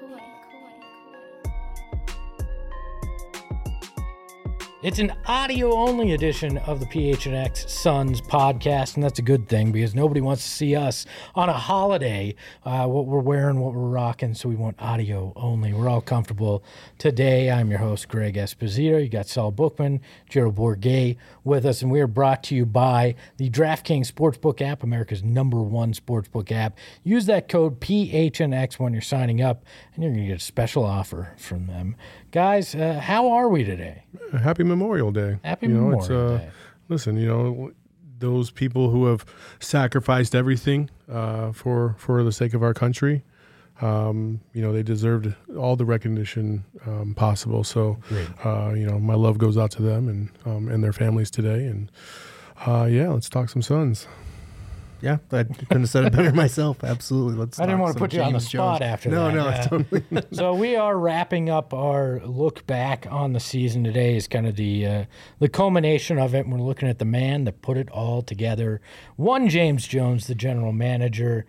It's an audio-only edition of the PHNX Suns podcast, and that's a good thing because nobody wants to see us on a holiday, what we're wearing, what we're rocking, so we want audio only. We're all comfortable today. I'm your host, Greg Esposito. You got Saul Bookman, Gerald Bourguet with us, and we are brought to you by the DraftKings Sportsbook app, America's #1 sportsbook app. Use that code PHNX when you're signing up, and you're going to get a special offer from them. Guys, how are we today? Happy Memorial Day. Happy Memorial Day. Listen, those people who have sacrificed everything for the sake of our country, they deserved all the recognition possible. So, my love goes out to them and their families today. And, let's talk some Suns. Yeah, I couldn't have said it better myself. Absolutely. I didn't want to put you on the spot after that. No, totally. So we are wrapping up our look back on the season. Today is kind of the culmination of it. And we're looking at the man that put it all together. One James Jones, the general manager.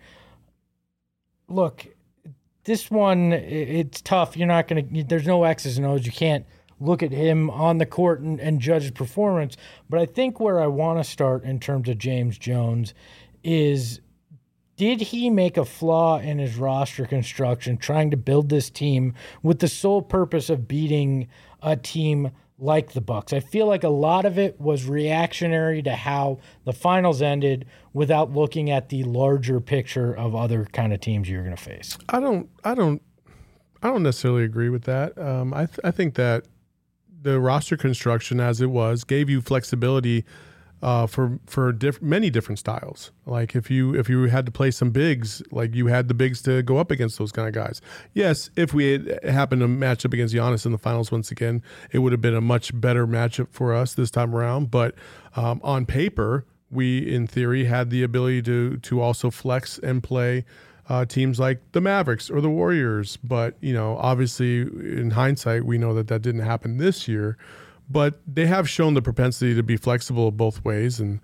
Look, this one, it's tough. You're not going to – there's no X's and O's. You can't look at him on the court and judge his performance. But I think where I want to start in terms of James Jones is, did he make a flaw in his roster construction trying to build this team with the sole purpose of beating a team like the Bucks? I feel like a lot of it was reactionary to how the finals ended without looking at the larger picture of other kind of teams you're going to face. I don't necessarily agree with that. I think that the roster construction as it was gave you flexibility for many different styles. Like if you had to play some bigs, like you had the bigs to go up against those kind of guys. Yes, if we had happened to match up against Giannis in the finals once again, it would have been a much better matchup for us this time around. But on paper, we in theory had the ability to also flex and play teams like the Mavericks or the Warriors. But obviously in hindsight, we know that didn't happen this year. But they have shown the propensity to be flexible both ways, and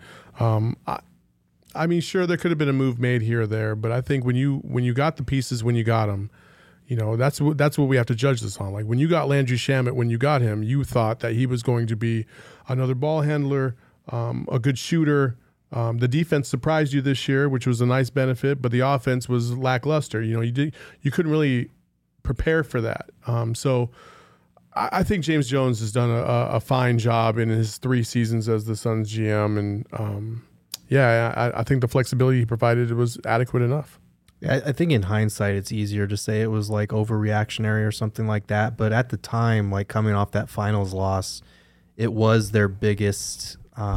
I mean, sure, there could have been a move made here or there, but I think when you got the pieces when you got them, that's what we have to judge this on. Like when you got Landry Shamet, when you got him, you thought that he was going to be another ball handler, a good shooter. The defense surprised you this year, which was a nice benefit, but the offense was lackluster. You couldn't really prepare for that. So I think James Jones has done a fine job in his 3 seasons as the Suns GM, and I think the flexibility he provided was adequate enough. I think in hindsight, it's easier to say it was like overreactionary or something like that. But at the time, like coming off that finals loss, it was their biggest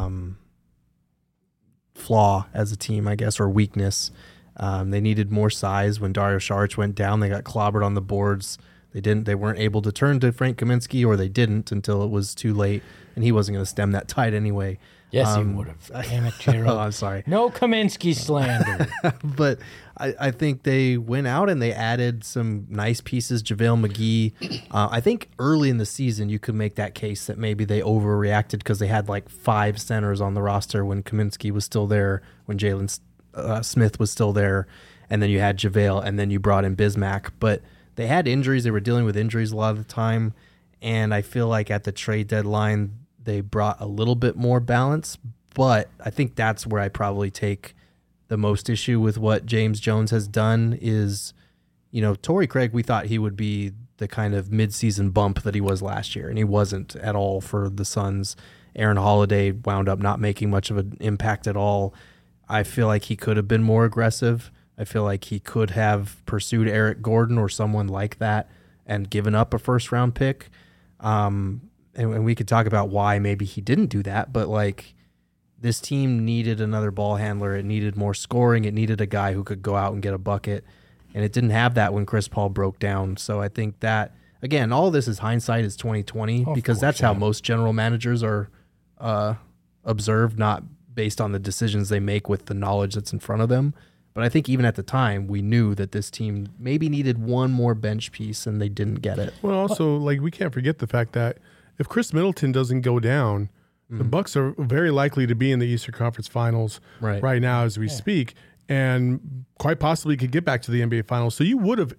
flaw as a team, I guess, or weakness. They needed more size. When Dario Saric went down, they got clobbered on the boards. They weren't able to turn to Frank Kaminsky, or they didn't until it was too late, and he wasn't going to stem that tide anyway. Yes, he would have. Damn it, Gerald. Oh, I'm sorry. No Kaminsky slander. But I think they went out and they added some nice pieces. JaVale McGee. I think early in the season you could make that case that maybe they overreacted because they had like 5 centers on the roster when Kaminsky was still there, when Jalen Smith was still there, and then you had JaVale, and then you brought in Bismack. But they had injuries. They were dealing with injuries a lot of the time. And I feel like at the trade deadline, they brought a little bit more balance. But I think that's where I probably take the most issue with what James Jones has done is, Torrey Craig, we thought he would be the kind of midseason bump that he was last year. And he wasn't at all for the Suns. Aaron Holiday wound up not making much of an impact at all. I feel like he could have been more aggressive. I feel like he could have pursued Eric Gordon or someone like that and given up a first-round pick. And we could talk about why maybe he didn't do that, but like this team needed another ball handler. It needed more scoring. It needed a guy who could go out and get a bucket, and it didn't have that when Chris Paul broke down. So I think that, again, all this is hindsight is 2020 because that's how most general managers are observed, not based on the decisions they make with the knowledge that's in front of them. But I think even at the time, we knew that this team maybe needed one more bench piece, and they didn't get it. Well, also, we can't forget the fact that if Chris Middleton doesn't go down, the Bucks are very likely to be in the Eastern Conference Finals right now as we speak, and quite possibly could get back to the NBA Finals. So you would have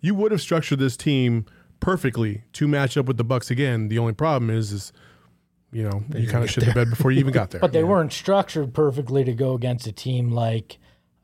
you would have structured this team perfectly to match up with the Bucks again. The only problem is you kind of shit the bed before you even got there. But they weren't structured perfectly to go against a team like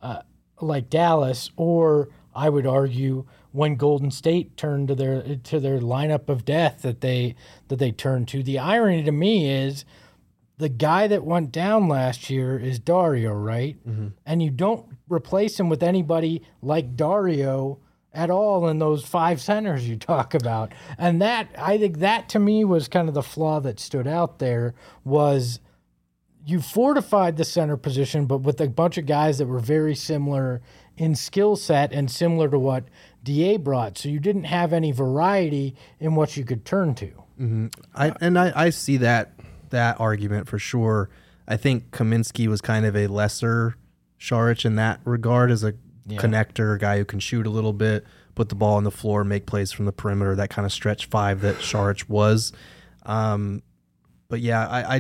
Dallas, or I would argue when Golden State turned to their lineup of death that they turned to. The irony to me is the guy that went down last year is Dario, right? Mm-hmm. And you don't replace him with anybody like Dario at all in those 5 centers you talk about. And I think that to me was kind of the flaw that stood out there, was you fortified the center position, but with a bunch of guys that were very similar in skill set and similar to what DA brought. So you didn't have any variety in what you could turn to. Mm-hmm. I see that argument for sure. I think Kaminsky was kind of a lesser Saric in that regard, as a connector, a guy who can shoot a little bit, put the ball on the floor, make plays from the perimeter, that kind of stretch 5 that Saric was. But yeah,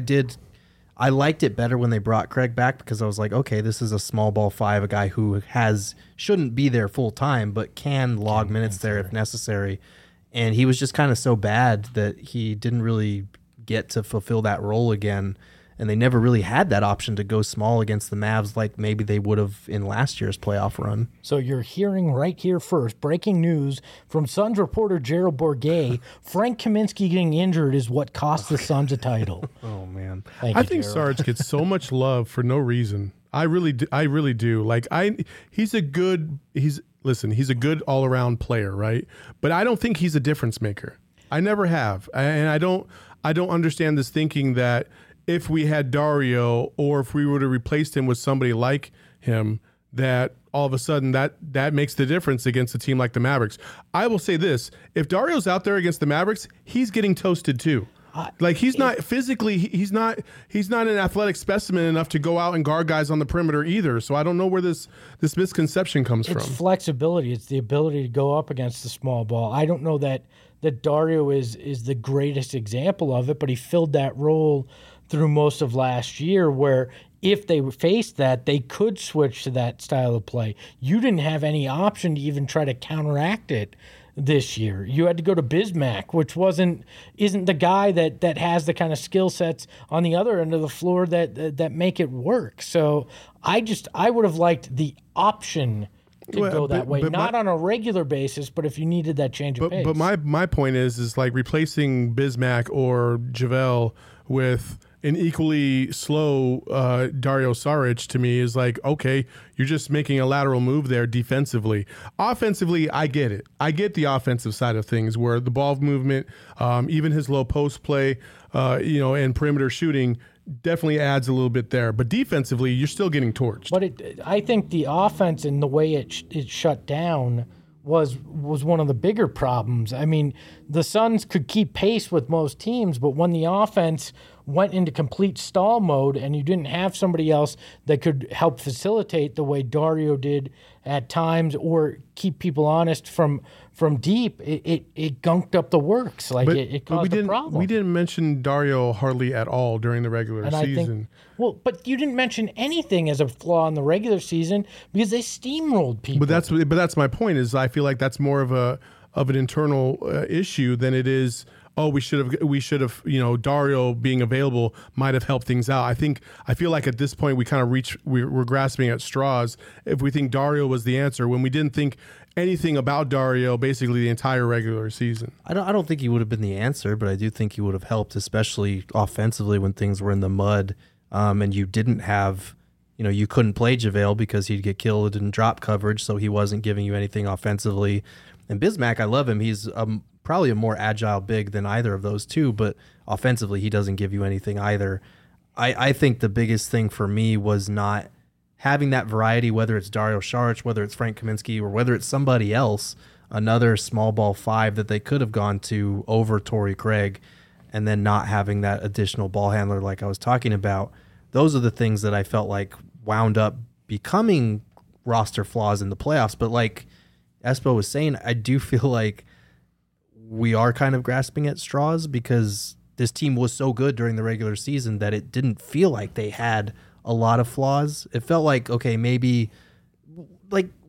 I liked it better when they brought Craig back, because I was like, okay, this is a small ball 5, a guy who shouldn't be there full time, but can log minutes there if necessary. And he was just kind of so bad that he didn't really get to fulfill that role again. And they never really had that option to go small against the Mavs like maybe they would have in last year's playoff run. So you're hearing right here first, breaking news from Suns reporter Gerald Bourguet. Frank Kaminsky getting injured is what cost the Suns a title. Oh, man. I think Sarge gets so much love for no reason. I really do. Like, he's a good all-around player, right? But I don't think he's a difference maker. I never have. And I don't understand this thinking that if we had Dario, or if we would have replaced him with somebody like him, that all of a sudden that makes the difference against a team like the Mavericks. I will say this: if Dario's out there against the Mavericks, he's getting toasted too. Like, he's not physically, he's not an athletic specimen enough to go out and guard guys on the perimeter either. So I don't know where this misconception comes from. It's flexibility. It's the ability to go up against the small ball. I don't know that Dario is the greatest example of it, but he filled that role through most of last year, where if they faced that, they could switch to that style of play. You didn't have any option to even try to counteract it this year. You had to go to Bismack, which isn't the guy that has the kind of skill sets on the other end of the floor that make it work. So I would have liked the option to go that way, not on a regular basis, but if you needed that change of pace. But my point is like replacing Bismack or JaVale with an equally slow Dario Saric, to me, is like, okay, you're just making a lateral move there defensively. Offensively, I get it. I get the offensive side of things, where the ball movement, even his low post play, and perimeter shooting definitely adds a little bit there. But defensively, you're still getting torched. But I think the offense and the way it shut down was one of the bigger problems. I mean, the Suns could keep pace with most teams, but when the offense went into complete stall mode and you didn't have somebody else that could help facilitate the way Dario did at times, or keep people honest from deep, it gunked up the works. Like, it caused a problem. We didn't mention Dario hardly at all during the regular season. But you didn't mention anything as a flaw in the regular season because they steamrolled people. But that's my point. Is I feel like that's more of an internal issue than it is. Oh, we should have. Dario being available might have helped things out. I feel like at this point we're grasping at straws if we think Dario was the answer when we didn't think anything about Dario basically the entire regular season. I don't think he would have been the answer, but I do think he would have helped, especially offensively when things were in the mud, and you didn't have. You couldn't play JaVale because he'd get killed in drop coverage, so he wasn't giving you anything offensively. And Bismack, I love him. He's probably a more agile big than either of those two, but offensively he doesn't give you anything either. I think the biggest thing for me was not having that variety, whether it's Dario Saric, whether it's Frank Kaminsky, or whether it's somebody else, another small ball 5 that they could have gone to over Torrey Craig, and then not having that additional ball handler like I was talking about. Those are the things that I felt like wound up becoming roster flaws in the playoffs. But like Espo was saying, I do feel like we are kind of grasping at straws, because this team was so good during the regular season that it didn't feel like they had a lot of flaws. It felt like, okay, maybe like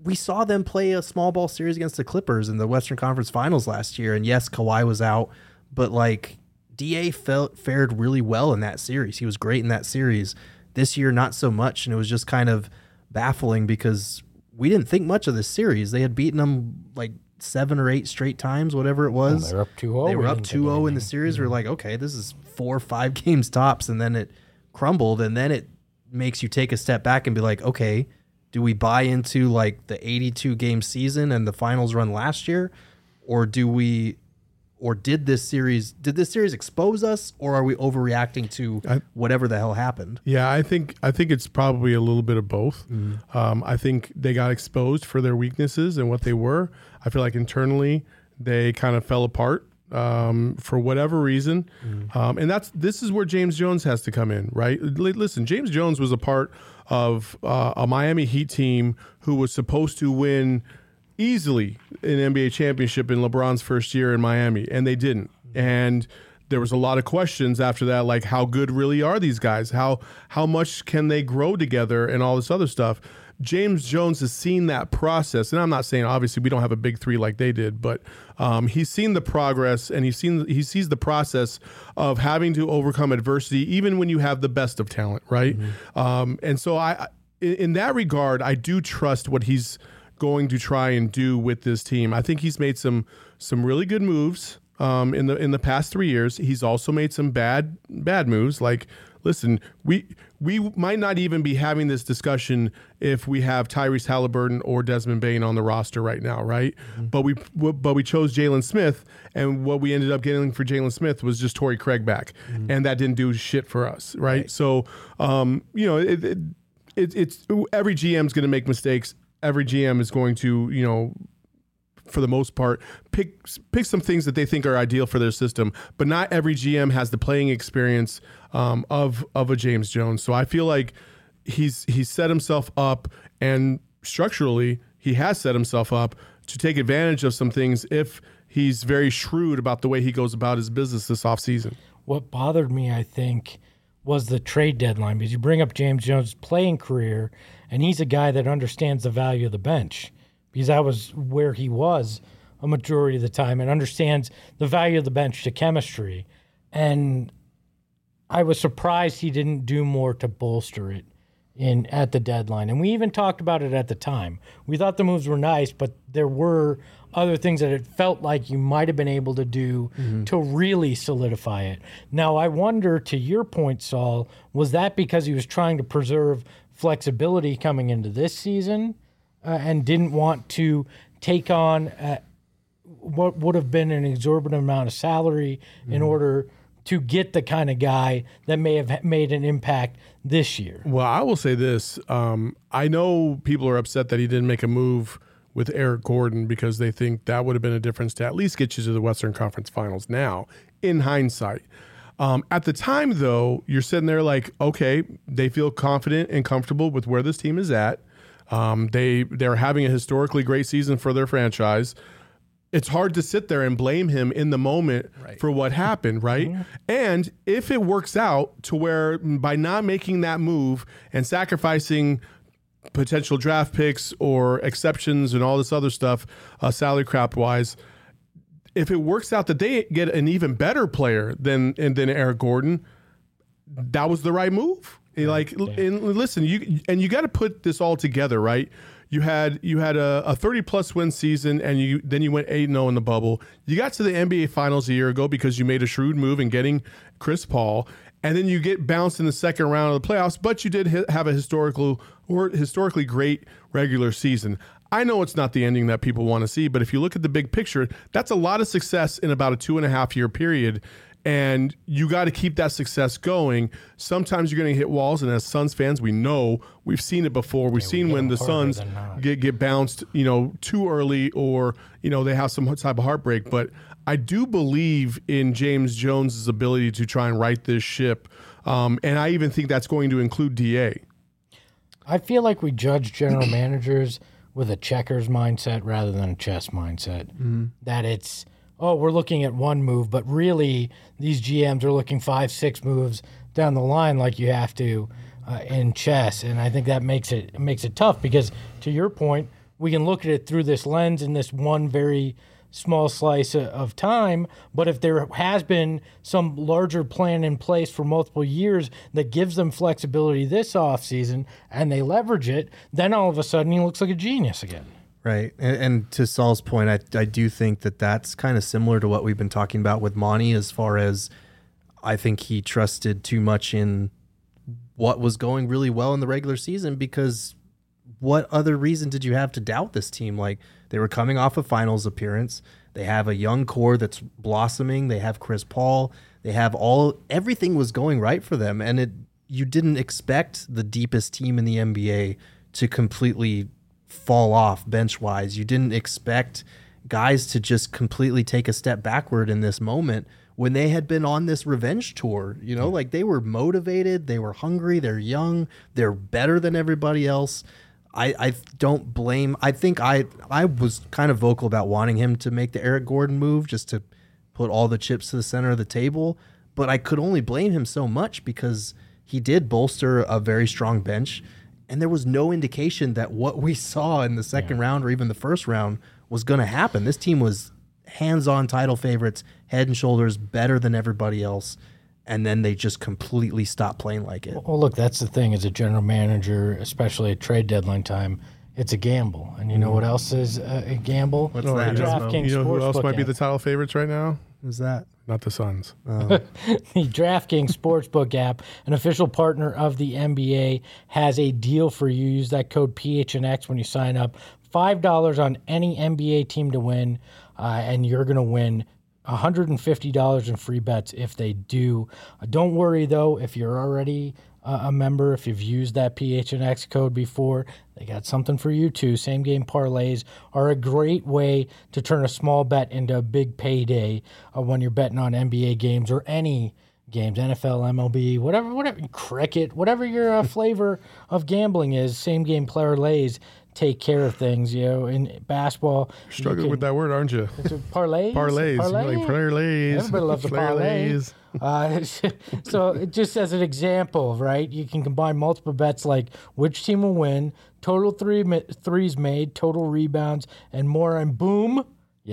we saw them play a small ball series against the Clippers in the Western Conference Finals last year. And yes, Kawhi was out, but like DA fared really well in that series. He was great in that series. This year, not so much. And it was just kind of baffling because we didn't think much of this series. They had beaten them like 7 or 8 straight times, whatever it was. They're up 2-0. They were up 2-0 in the series. We're like, okay, this is 4 or 5 games tops. And then it crumbled. And then it makes you take a step back and be like, okay, do we buy into like the 82 game season and the finals run last year? Or did this series expose us, or are we overreacting to whatever the hell happened? Yeah, I think it's probably a little bit of both. I think they got exposed for their weaknesses and what they were. I feel like internally they kind of fell apart for whatever reason. And this is where James Jones has to come in, right? Listen, James Jones was a part of a Miami Heat team who was supposed to win easily an NBA championship in LeBron's first year in Miami, and they didn't. And there was a lot of questions after that, like how good really are these guys? How much can they grow together and all this other stuff? James Jones has seen that process, and I'm not saying obviously we don't have a big 3 like they did, but he's seen the progress and he sees the process of having to overcome adversity, even when you have the best of talent, right? And so in that regard, I do trust what he's going to try and do with this team. I think he's made some really good moves in the past 3 years. He's also made some bad moves. Like, listen, we might not even be having this discussion if we have Tyrese Halliburton or Desmond Bane on the roster right now, right? But we chose Jalen Smith, and what we ended up getting for Jalen Smith was just Torrey Craig back, and that didn't do shit for us, right? So, it's every GM's going to make mistakes. Every GM is going to, for the most part, pick some things that they think are ideal for their system. But not every GM has the playing experience of a James Jones. So I feel like he's set himself up, and structurally he has set himself up to take advantage of some things if he's very shrewd about the way he goes about his business this offseason. What bothered me, I think, was the trade deadline, because you bring up James Jones' playing career, and he's a guy that understands the value of the bench, because that was where he was a majority of the time, and understands the value of the bench to chemistry. And I was surprised he didn't do more to bolster it at the deadline. And we even talked about it at the time. We thought the moves were nice, but there were other things that it felt like you might have been able to do to really solidify it. Now, I wonder, to your point, Saul, was that because he was trying to preserve flexibility coming into this season and didn't want to take on what would have been an exorbitant amount of salary in order to get the kind of guy that may have made an impact this year? Well, I will say this. I know people are upset that he didn't make a move with Eric Gordon because they think that would have been a difference to at least get you to the Western Conference Finals now, in hindsight. At the time, though, you're sitting there like, okay, they feel confident and comfortable with where this team is at. They're having a historically great season for their franchise. It's hard to sit there and blame him in the moment for what happened, right? And if it works out to where by not making that move and sacrificing potential draft picks or exceptions and all this other stuff, salary cap wise, if it works out that they get an even better player than Eric Gordon, that was the right move. And listen, you got to put this all together, right? You had a 30-plus win season, and then you went 8-0 in the bubble. You got to the NBA Finals a year ago because you made a shrewd move in getting Chris Paul, and then you get bounced in the second round of the playoffs. But you did have a historically great regular season. I know it's not the ending that people want to see, but if you look at the big picture, that's a lot of success in about a 2.5-year period. And you got to keep that success going. Sometimes you're going to hit walls, and as Suns fans, we've seen it before. We've seen when the Suns get bounced, too early, or they have some type of heartbreak. But I do believe in James Jones' ability to try and right this ship, and I even think that's going to include DA. I feel like we judge general managers with a checkers mindset rather than a chess mindset. That it's, we're looking at one move, but really these GMs are looking 5-6 moves down the line like you have to in chess. And I think that makes it tough because, to your point, we can look at it through this lens in this one very small slice of time. But if there has been some larger plan in place for multiple years that gives them flexibility this offseason and they leverage it, then all of a sudden he looks like a genius again. Right. And to Saul's point, I do think that that's kind of similar to what we've been talking about with Monty, as far as I think he trusted too much in what was going really well in the regular season, because what other reason did you have to doubt this team? Like, they were coming off a finals appearance. They have a young core that's blossoming. They have Chris Paul. They have everything was going right for them. And you didn't expect the deepest team in the NBA to completely fall off bench-wise. You didn't expect guys to just completely take a step backward in this moment when they had been on this revenge tour. You know, like, they were motivated, they were hungry, they're young, they're better than everybody else. I don't blame. I think I was kind of vocal about wanting him to make the Eric Gordon move, just to put all the chips to the center of the table. But I could only blame him so much because he did bolster a very strong bench, and there was no indication that what we saw in the second round or even the first round was going to happen. This team was hands-on title favorites, head and shoulders better than everybody else. And then they just completely stopped playing like it. Well, look, that's the thing as a general manager, especially at trade deadline time. It's a gamble. And you know what else is a gamble? What's that? DraftKings You know who else Sportsbook might be app. the title favorites right now? Who's that? Not the Suns. The DraftKings Sportsbook app, an official partner of the NBA, has a deal for you. Use that code PHNX when you sign up. $5 on any NBA team to win, and you're going to win $150 in free bets if they do. Don't worry, though, if you're already a member, if you've used that PHNX code before, they got something for you, too. Same game parlays are a great way to turn a small bet into a big payday when you're betting on NBA games or any games, NFL, MLB, whatever, cricket, whatever your flavor of gambling is. Same game parlays take care of things, you know. In basketball, Struggling with that word, aren't you? Parlays. Parlays. Parlay? Like parlays. Everybody loves a parlay. So just as an example, right, you can combine multiple bets like which team will win, total threes made, total rebounds, and more, and boom,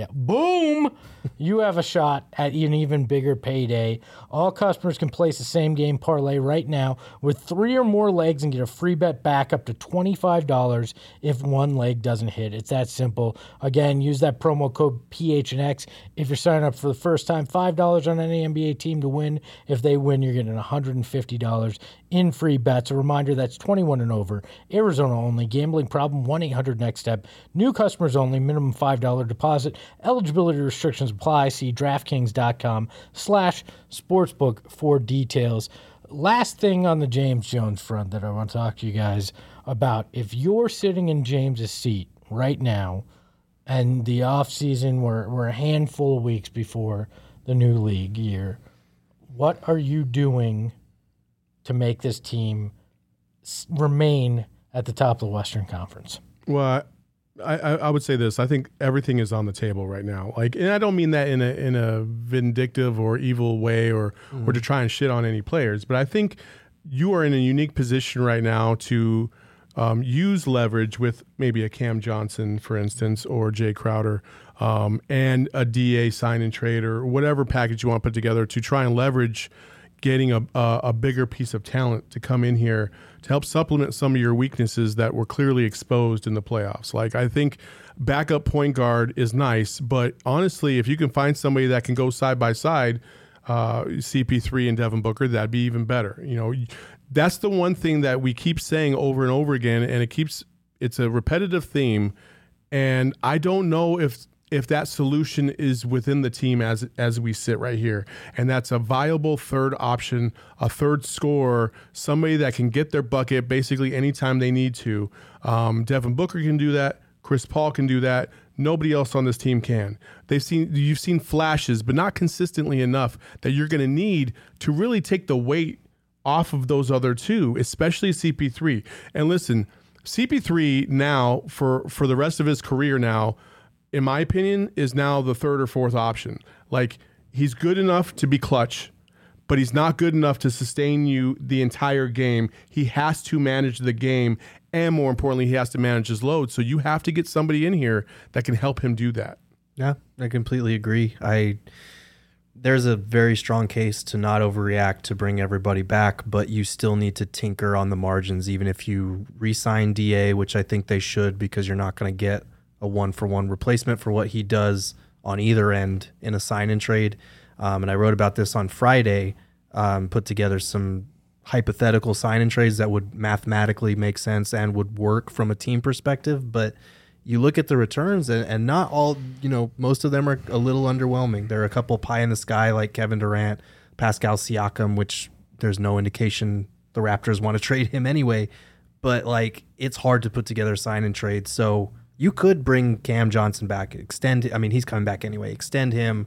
you have a shot at an even bigger payday. All customers can place the same game parlay right now with 3 or more legs and get a free bet back up to $25 if one leg doesn't hit. It's that simple. Again, use that promo code PHNX if you're signing up for the first time. $5 on any NBA team to win. If they win, you're getting $150 in free bets. A reminder, that's 21 and over. Arizona only. Gambling problem, 1-800-NEXT-STEP. New customers only. Minimum $5 deposit. Eligibility restrictions apply. See DraftKings.com/sportsbook for details. Last thing on the James Jones front that I want to talk to you guys about. If you're sitting in James's seat right now and the offseason, we're a handful of weeks before the new league year, what are you doing to make this team remain at the top of the Western Conference? Well, I would say this. I think everything is on the table right now. Like, and I don't mean that in a vindictive or evil way or to try and shit on any players, but I think you are in a unique position right now to use leverage with maybe a Cam Johnson, for instance, or Jay Crowder, and a DA sign and trade or whatever package you want to put together to try and leverage getting a bigger piece of talent to come in here to help supplement some of your weaknesses that were clearly exposed in the playoffs. Like, I think backup point guard is nice, but honestly, if you can find somebody that can go side by side, CP3 and Devin Booker, that'd be even better. You know, that's the one thing that we keep saying over and over again, and it's a repetitive theme, and I don't know if that solution is within the team as we sit right here. And that's a viable third option, a third scorer, somebody that can get their bucket basically anytime they need to. Devin Booker can do that. Chris Paul can do that. Nobody else on this team can. You've seen flashes, but not consistently enough that you're going to need to really take the weight off of those other two, especially CP3. And listen, CP3 now, for the rest of his career now, in my opinion, is now the third or fourth option. Like, he's good enough to be clutch, but he's not good enough to sustain you the entire game. He has to manage the game and more importantly, he has to manage his load. So you have to get somebody in here that can help him do that. Yeah, I completely agree. There's a very strong case to not overreact to bring everybody back, but you still need to tinker on the margins, even if you re-sign DA, which I think they should, because you're not going to get a one-for-one replacement for what he does on either end in a sign-and trade. And I wrote about this on Friday, put together some hypothetical sign-and trades that would mathematically make sense and would work from a team perspective, but you look at the returns and not all, most of them are a little underwhelming. There are a couple pie in the sky like Kevin Durant, Pascal Siakam, which there's no indication the Raptors want to trade him anyway. But it's hard to put together a sign and trade. So you could bring Cam Johnson back, he's coming back anyway, extend him,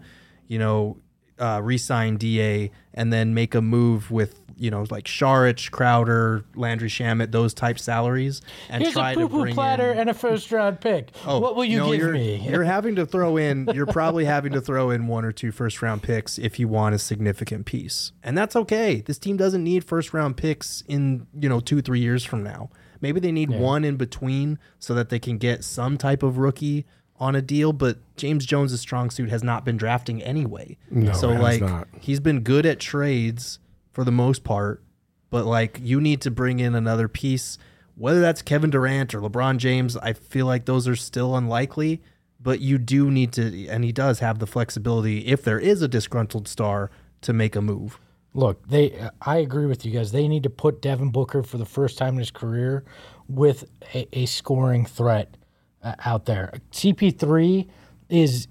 re-sign DA, and then make a move with, like Saric, Crowder, Landry Shamet, those type salaries, and Here's try a to poo-poo bring platter in and a first-round pick. What will you give me? You're probably having to throw in 1 or 2 first-round picks if you want a significant piece, and that's okay. This team doesn't need first-round picks in 2-3 years from now. Maybe they need one in between so that they can get some type of rookie on a deal, but James Jones' strong suit has not been drafting anyway. No, so it has not. He's been good at trades for the most part, but you need to bring in another piece, whether that's Kevin Durant or LeBron James. I feel like those are still unlikely, but you do need to, and he does have the flexibility if there is a disgruntled star to make a move. Look, I agree with you guys. They need to put Devin Booker for the first time in his career with a scoring threat out there. CP3 is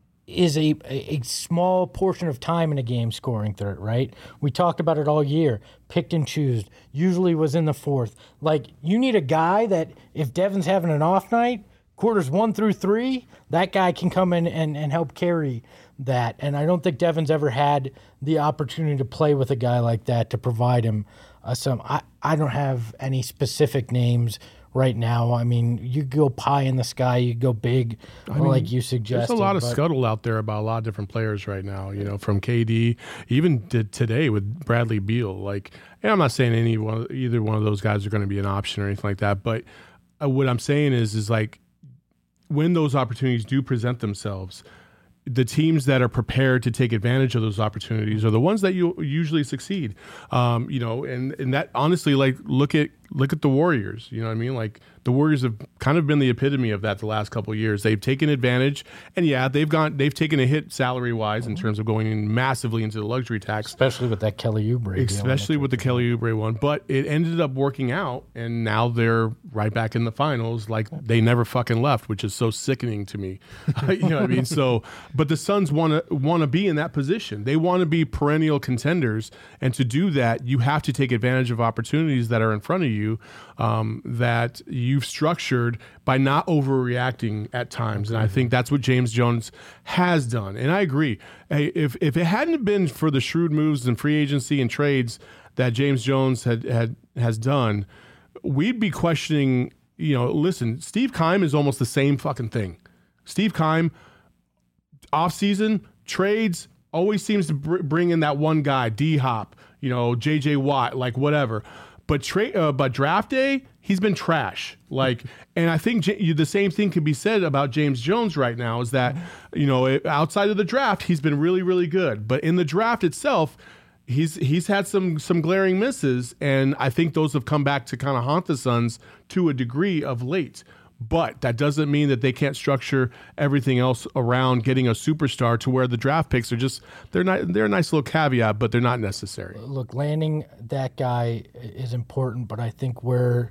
a small portion of time in a game scoring threat, right? We talked about it all year. Picked and choose. Usually was in the fourth. You need a guy that if Devin's having an off night, quarters 1 through 3, that guy can come in and help carry that. And I don't think Devin's ever had the opportunity to play with a guy like that to provide him some. I don't have any specific names right now. I mean, you go pie in the sky, you go big, like you suggested. There's a lot of scuttle out there about a lot of different players right now, from KD, even today with Bradley Beal. And I'm not saying either one of those guys are going to be an option or anything like that, but what I'm saying is when those opportunities do present themselves, the teams that are prepared to take advantage of those opportunities are the ones that you usually succeed. And that honestly, look at the Warriors. You know what I mean? The Warriors have kind of been the epitome of that the last couple of years. They've taken advantage, and they've taken a hit salary wise in terms of going in massively into the luxury tax, especially with that Kelly Oubre, especially with the Kelly Oubre one. But it ended up working out, and now they're right back in the finals, they never fucking left, which is so sickening to me. You know what I mean? So, but the Suns want to be in that position. They want to be perennial contenders, and to do that, you have to take advantage of opportunities that are in front of you, that you've structured by not overreacting at times. And I think that's what James Jones has done. And I agree. Hey, if it hadn't been for the shrewd moves and free agency and trades that James Jones has done, we'd be questioning, listen, Steve Keim is almost the same fucking thing. Steve Keim, offseason, trades, always seems to bring in that one guy, D-Hop, J.J. Watt, whatever. But draft day, he's been trash. And I think the same thing can be said about James Jones right now, is that, outside of the draft, he's been really, really good. But in the draft itself, he's had some glaring misses, and I think those have come back to kind of haunt the Suns to a degree of late. But that doesn't mean that they can't structure everything else around getting a superstar to where the draft picks are they're a nice little caveat, but they're not necessary. Look, landing that guy is important, but I think where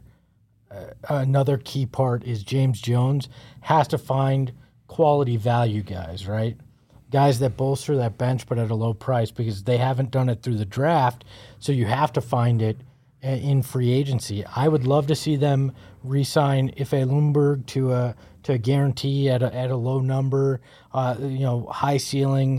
another key part is James Jones has to find quality value guys, right? Guys that bolster that bench, but at a low price, because they haven't done it through the draft. So you have to find it in free agency. I would love to see them re-sign Ife Lundberg to a guarantee at a low number, high ceiling,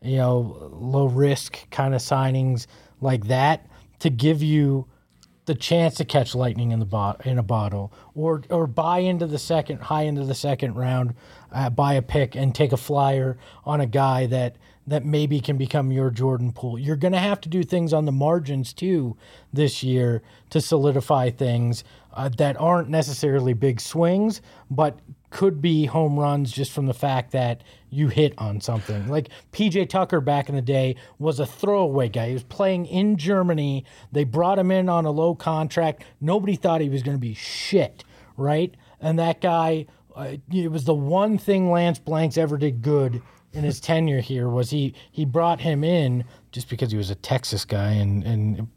low risk kind of signings like that, to give you the chance to catch lightning in a bottle, or buy into the second round, buy a pick and take a flyer on a guy that that maybe can become your Jordan Poole. You're going to have to do things on the margins too this year to solidify things that aren't necessarily big swings, but could be home runs just from the fact that you hit on something. Like PJ Tucker back in the day was a throwaway guy. He was playing in Germany. They brought him in on a low contract. Nobody thought he was going to be shit, right? And that guy, it was the one thing Lance Blanks ever did good in his tenure here was he brought him in just because he was a Texas guy and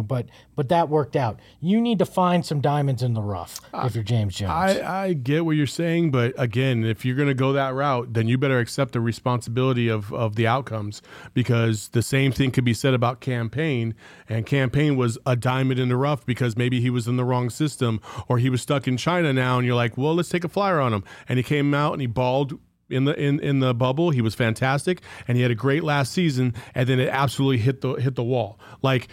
but that worked out. You need to find some diamonds in the rough if you're James Jones. I get what you're saying, but again, if you're going to go that route, then you better accept the responsibility of the outcomes, because the same thing could be said about Campaign, and Campaign was a diamond in the rough because maybe he was in the wrong system or he was stuck in China now, and you're like, well, let's take a flyer on him, and he came out and he balled in the bubble. He was fantastic, and he had a great last season, and then it absolutely hit the wall. Like,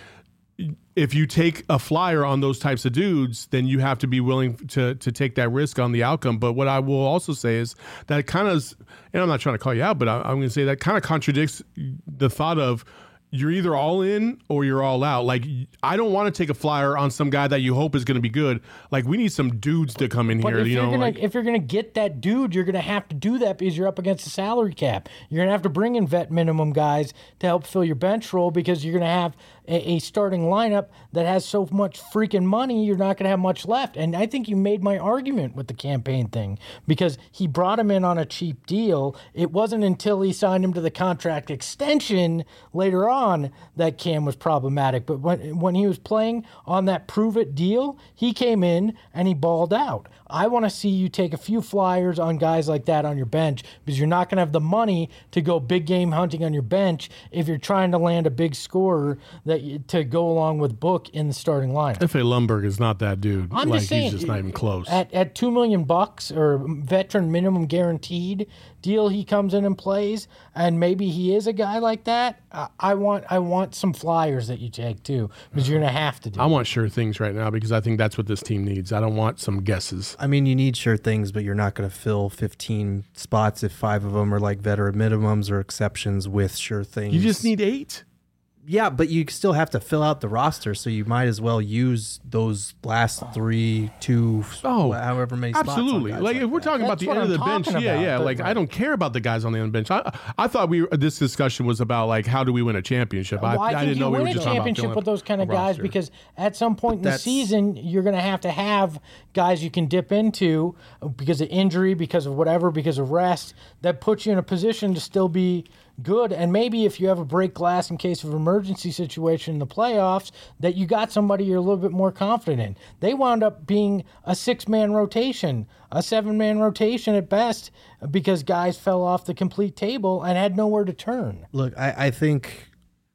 if you take a flyer on those types of dudes, then you have to be willing to take that risk on the outcome. But what I will also say is that it kind of, and I'm not trying to call you out, but I'm going to say that kind of contradicts the thought of you're either all in or you're all out. Like, I don't want to take a flyer on some guy that you hope is going to be good. Like, we need some dudes to come in here. If you're gonna get that dude, you're gonna have to do that because you're up against the salary cap. You're gonna have to bring in vet minimum guys to help fill your bench role because you're gonna have a starting lineup that has so much freaking money, you're not going to have much left. And I think you made my argument with the Campaign thing because he brought him in on a cheap deal. It wasn't until he signed him to the contract extension later on that Cam was problematic. But when he was playing on that prove-it deal, he came in and he balled out. I want to see you take a few flyers on guys like that on your bench because you're not going to have the money to go big game hunting on your bench if you're trying to land a big scorer to go along with Book in the starting lineup. F.A. Lundberg is not that dude. I'm just saying, he's just not even close. At $2 million or veteran minimum guaranteed deal, he comes in and plays, and maybe he is a guy like that. I want some flyers that you take too, because you're gonna have to do. I want sure things right now because I think that's what this team needs. I don't want some guesses. I mean, you need sure things, but you're not going to fill 15 spots if 5 of them are like veteran minimums or exceptions with sure things. You just need 8. Yeah, but you still have to fill out the roster, so you might as well use those last 3, 2, however many spots. Absolutely. Like if we're talking about the end of the bench, like I don't care about the guys on the end of the bench. I thought this discussion was about like how do we win a championship. I didn't know we were just talking about championship with those kind of guys because at some point in the season you're going to have guys you can dip into because of injury, because of whatever, because of rest that puts you in a position to still be good. And maybe if you have a break glass in case of emergency situation in the playoffs, that you got somebody you're a little bit more confident in. They wound up being a 6-man rotation, a 7-man rotation at best, because guys fell off the complete table and had nowhere to turn. Look, I think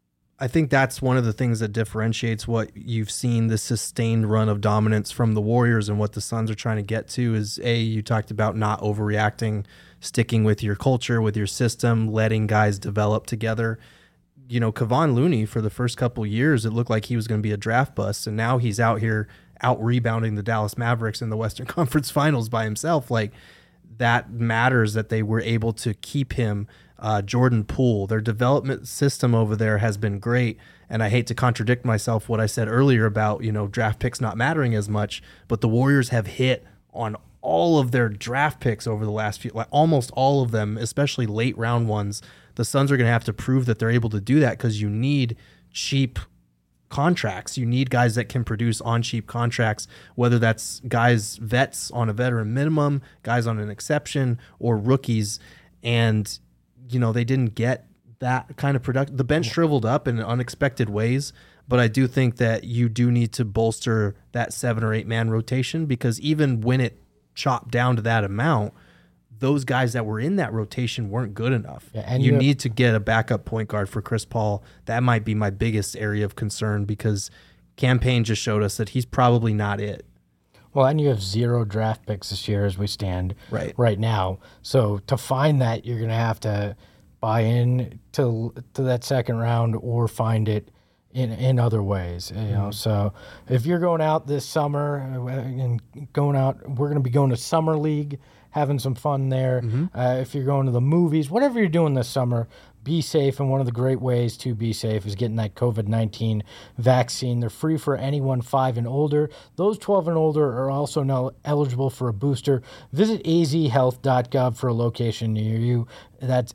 that's one of the things that differentiates what you've seen, the sustained run of dominance from the Warriors and what the Suns are trying to get to is, you talked about not overreacting, sticking with your culture, with your system, letting guys develop together. You know, Kevon Looney, for the first couple of years, it looked like he was going to be a draft bust, and now he's out here out-rebounding the Dallas Mavericks in the Western Conference Finals by himself. Like, that matters that they were able to keep him. Jordan Poole, their development system over there has been great, and I hate to contradict myself what I said earlier about, draft picks not mattering as much, but the Warriors have hit on all of their draft picks over the last few, like almost all of them, especially late round ones. The Suns are going to have to prove that they're able to do that because you need cheap contracts. You need guys that can produce on cheap contracts, whether that's guys, vets on a veteran minimum, guys on an exception, or rookies. And, they didn't get that kind of production. The bench shriveled up in unexpected ways, but I do think that you do need to bolster that 7 or 8 man rotation because even when it chopped down to that amount, those guys that were in that rotation weren't good enough. Yeah, and you need to get a backup point guard for Chris Paul. That might be my biggest area of concern because Campaign just showed us that he's probably not it. Well, and you have 0 draft picks this year as we stand right now. So to find that, you're going to have to buy in to that second round or find it in other ways, So if you're going out this summer and we're going to be going to summer league having some fun there. If you're going to the movies, whatever you're doing this summer, be safe. And one of the great ways to be safe is getting that COVID-19 vaccine. They're free for anyone 5 and older. Those 12 and older are also now eligible for a booster. Visit azhealth.gov for a location near you. That's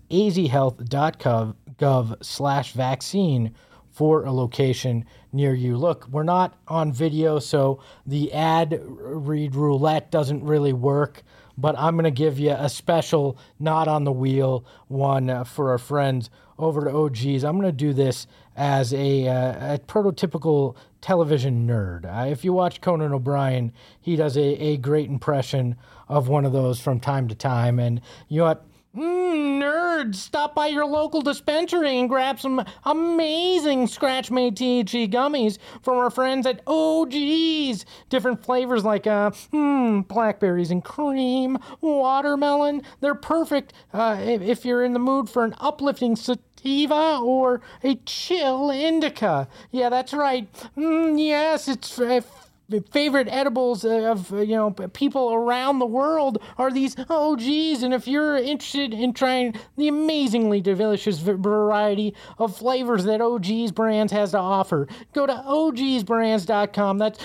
azhealth.gov/vaccine for a location near you. Look, we're not on video, so the ad read roulette doesn't really work, but I'm going to give you a special not on the wheel one for our friends over at OGs. I'm going to do this as a prototypical television nerd. If you watch Conan O'Brien, he does a great impression of one of those from time to time. And you know what? Nerds, stop by your local dispensary and grab some amazing scratch-made THC gummies from our friends at OGs. Different flavors like blackberries and cream, watermelon. They're perfect if you're in the mood for an uplifting sativa or a chill indica. Yeah, that's right. Yes, it's favorite edibles of people around the world are these OGs, and if you're interested in trying the amazingly delicious variety of flavors that OGs Brands has to offer, go to ogsbrands.com. That's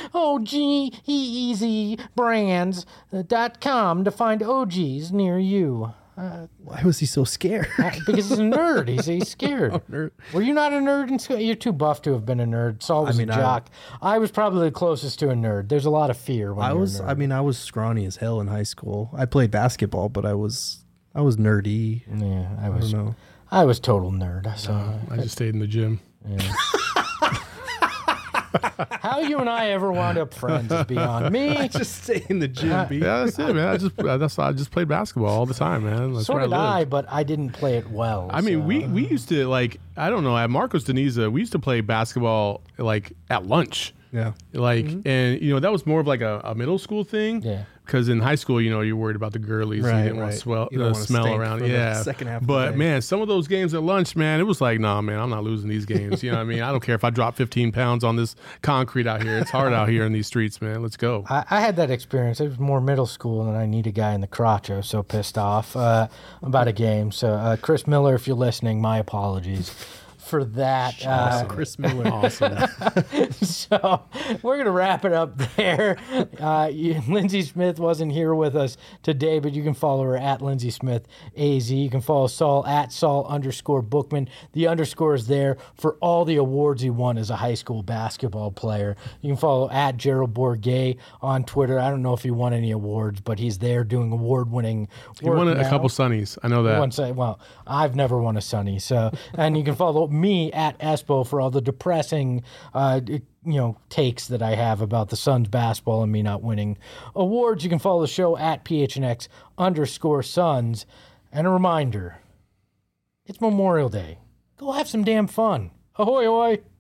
OGEEZbrands.com to find OGs near you. Why was he so scared? Because he's a nerd. He's scared. Nerd. Were you not a nerd in school? You're too buff to have been a nerd. Saul was a jock. I was probably the closest to a nerd. There's a lot of fear when you're a nerd. I was scrawny as hell in high school. I played basketball, but I was nerdy. Yeah, I was total nerd. So I just stayed in the gym. Yeah. How you and I ever wound up friends is beyond me. I just stay in the gym. Yeah, that's it, man. I just played basketball all the time, man. That's so did I, but I didn't play it well. I mean, we used to I don't know, at Marcos Deniza, we used to play basketball at lunch. Yeah. And that was more of like a middle school thing. Yeah. Because in high school, you're worried about the girlies. Right, you didn't want to smell around. Yeah. Second half but man, some of those games at lunch, man, it was like, nah, man, I'm not losing these games. You know what I mean? I don't care if I drop 15 pounds on this concrete out here. It's hard out here in these streets, man. Let's go. I had that experience. It was more middle school, and I need a guy in the crotch. I was so pissed off about a game. So, Chris Miller, if you're listening, my apologies for that. Chris Miller. Awesome. So we're going to wrap it up there. Lindsay Smith wasn't here with us today, but you can follow her at Lindsay Smith AZ. You can follow Saul at Saul_Bookman. The underscore is there for all the awards he won as a high school basketball player. You can follow at Gerald Bourget on Twitter. I don't know if he won any awards, but he's there doing award-winning work. He won a couple Sunnies. I know that. Well, I've never won a Sunny. So, and you can follow me at Espo for all the depressing takes that I have about the Suns basketball and me not winning awards. You can follow the show at PHNX_Suns. And a reminder, it's Memorial Day. Go have some damn fun. Ahoy, ahoy.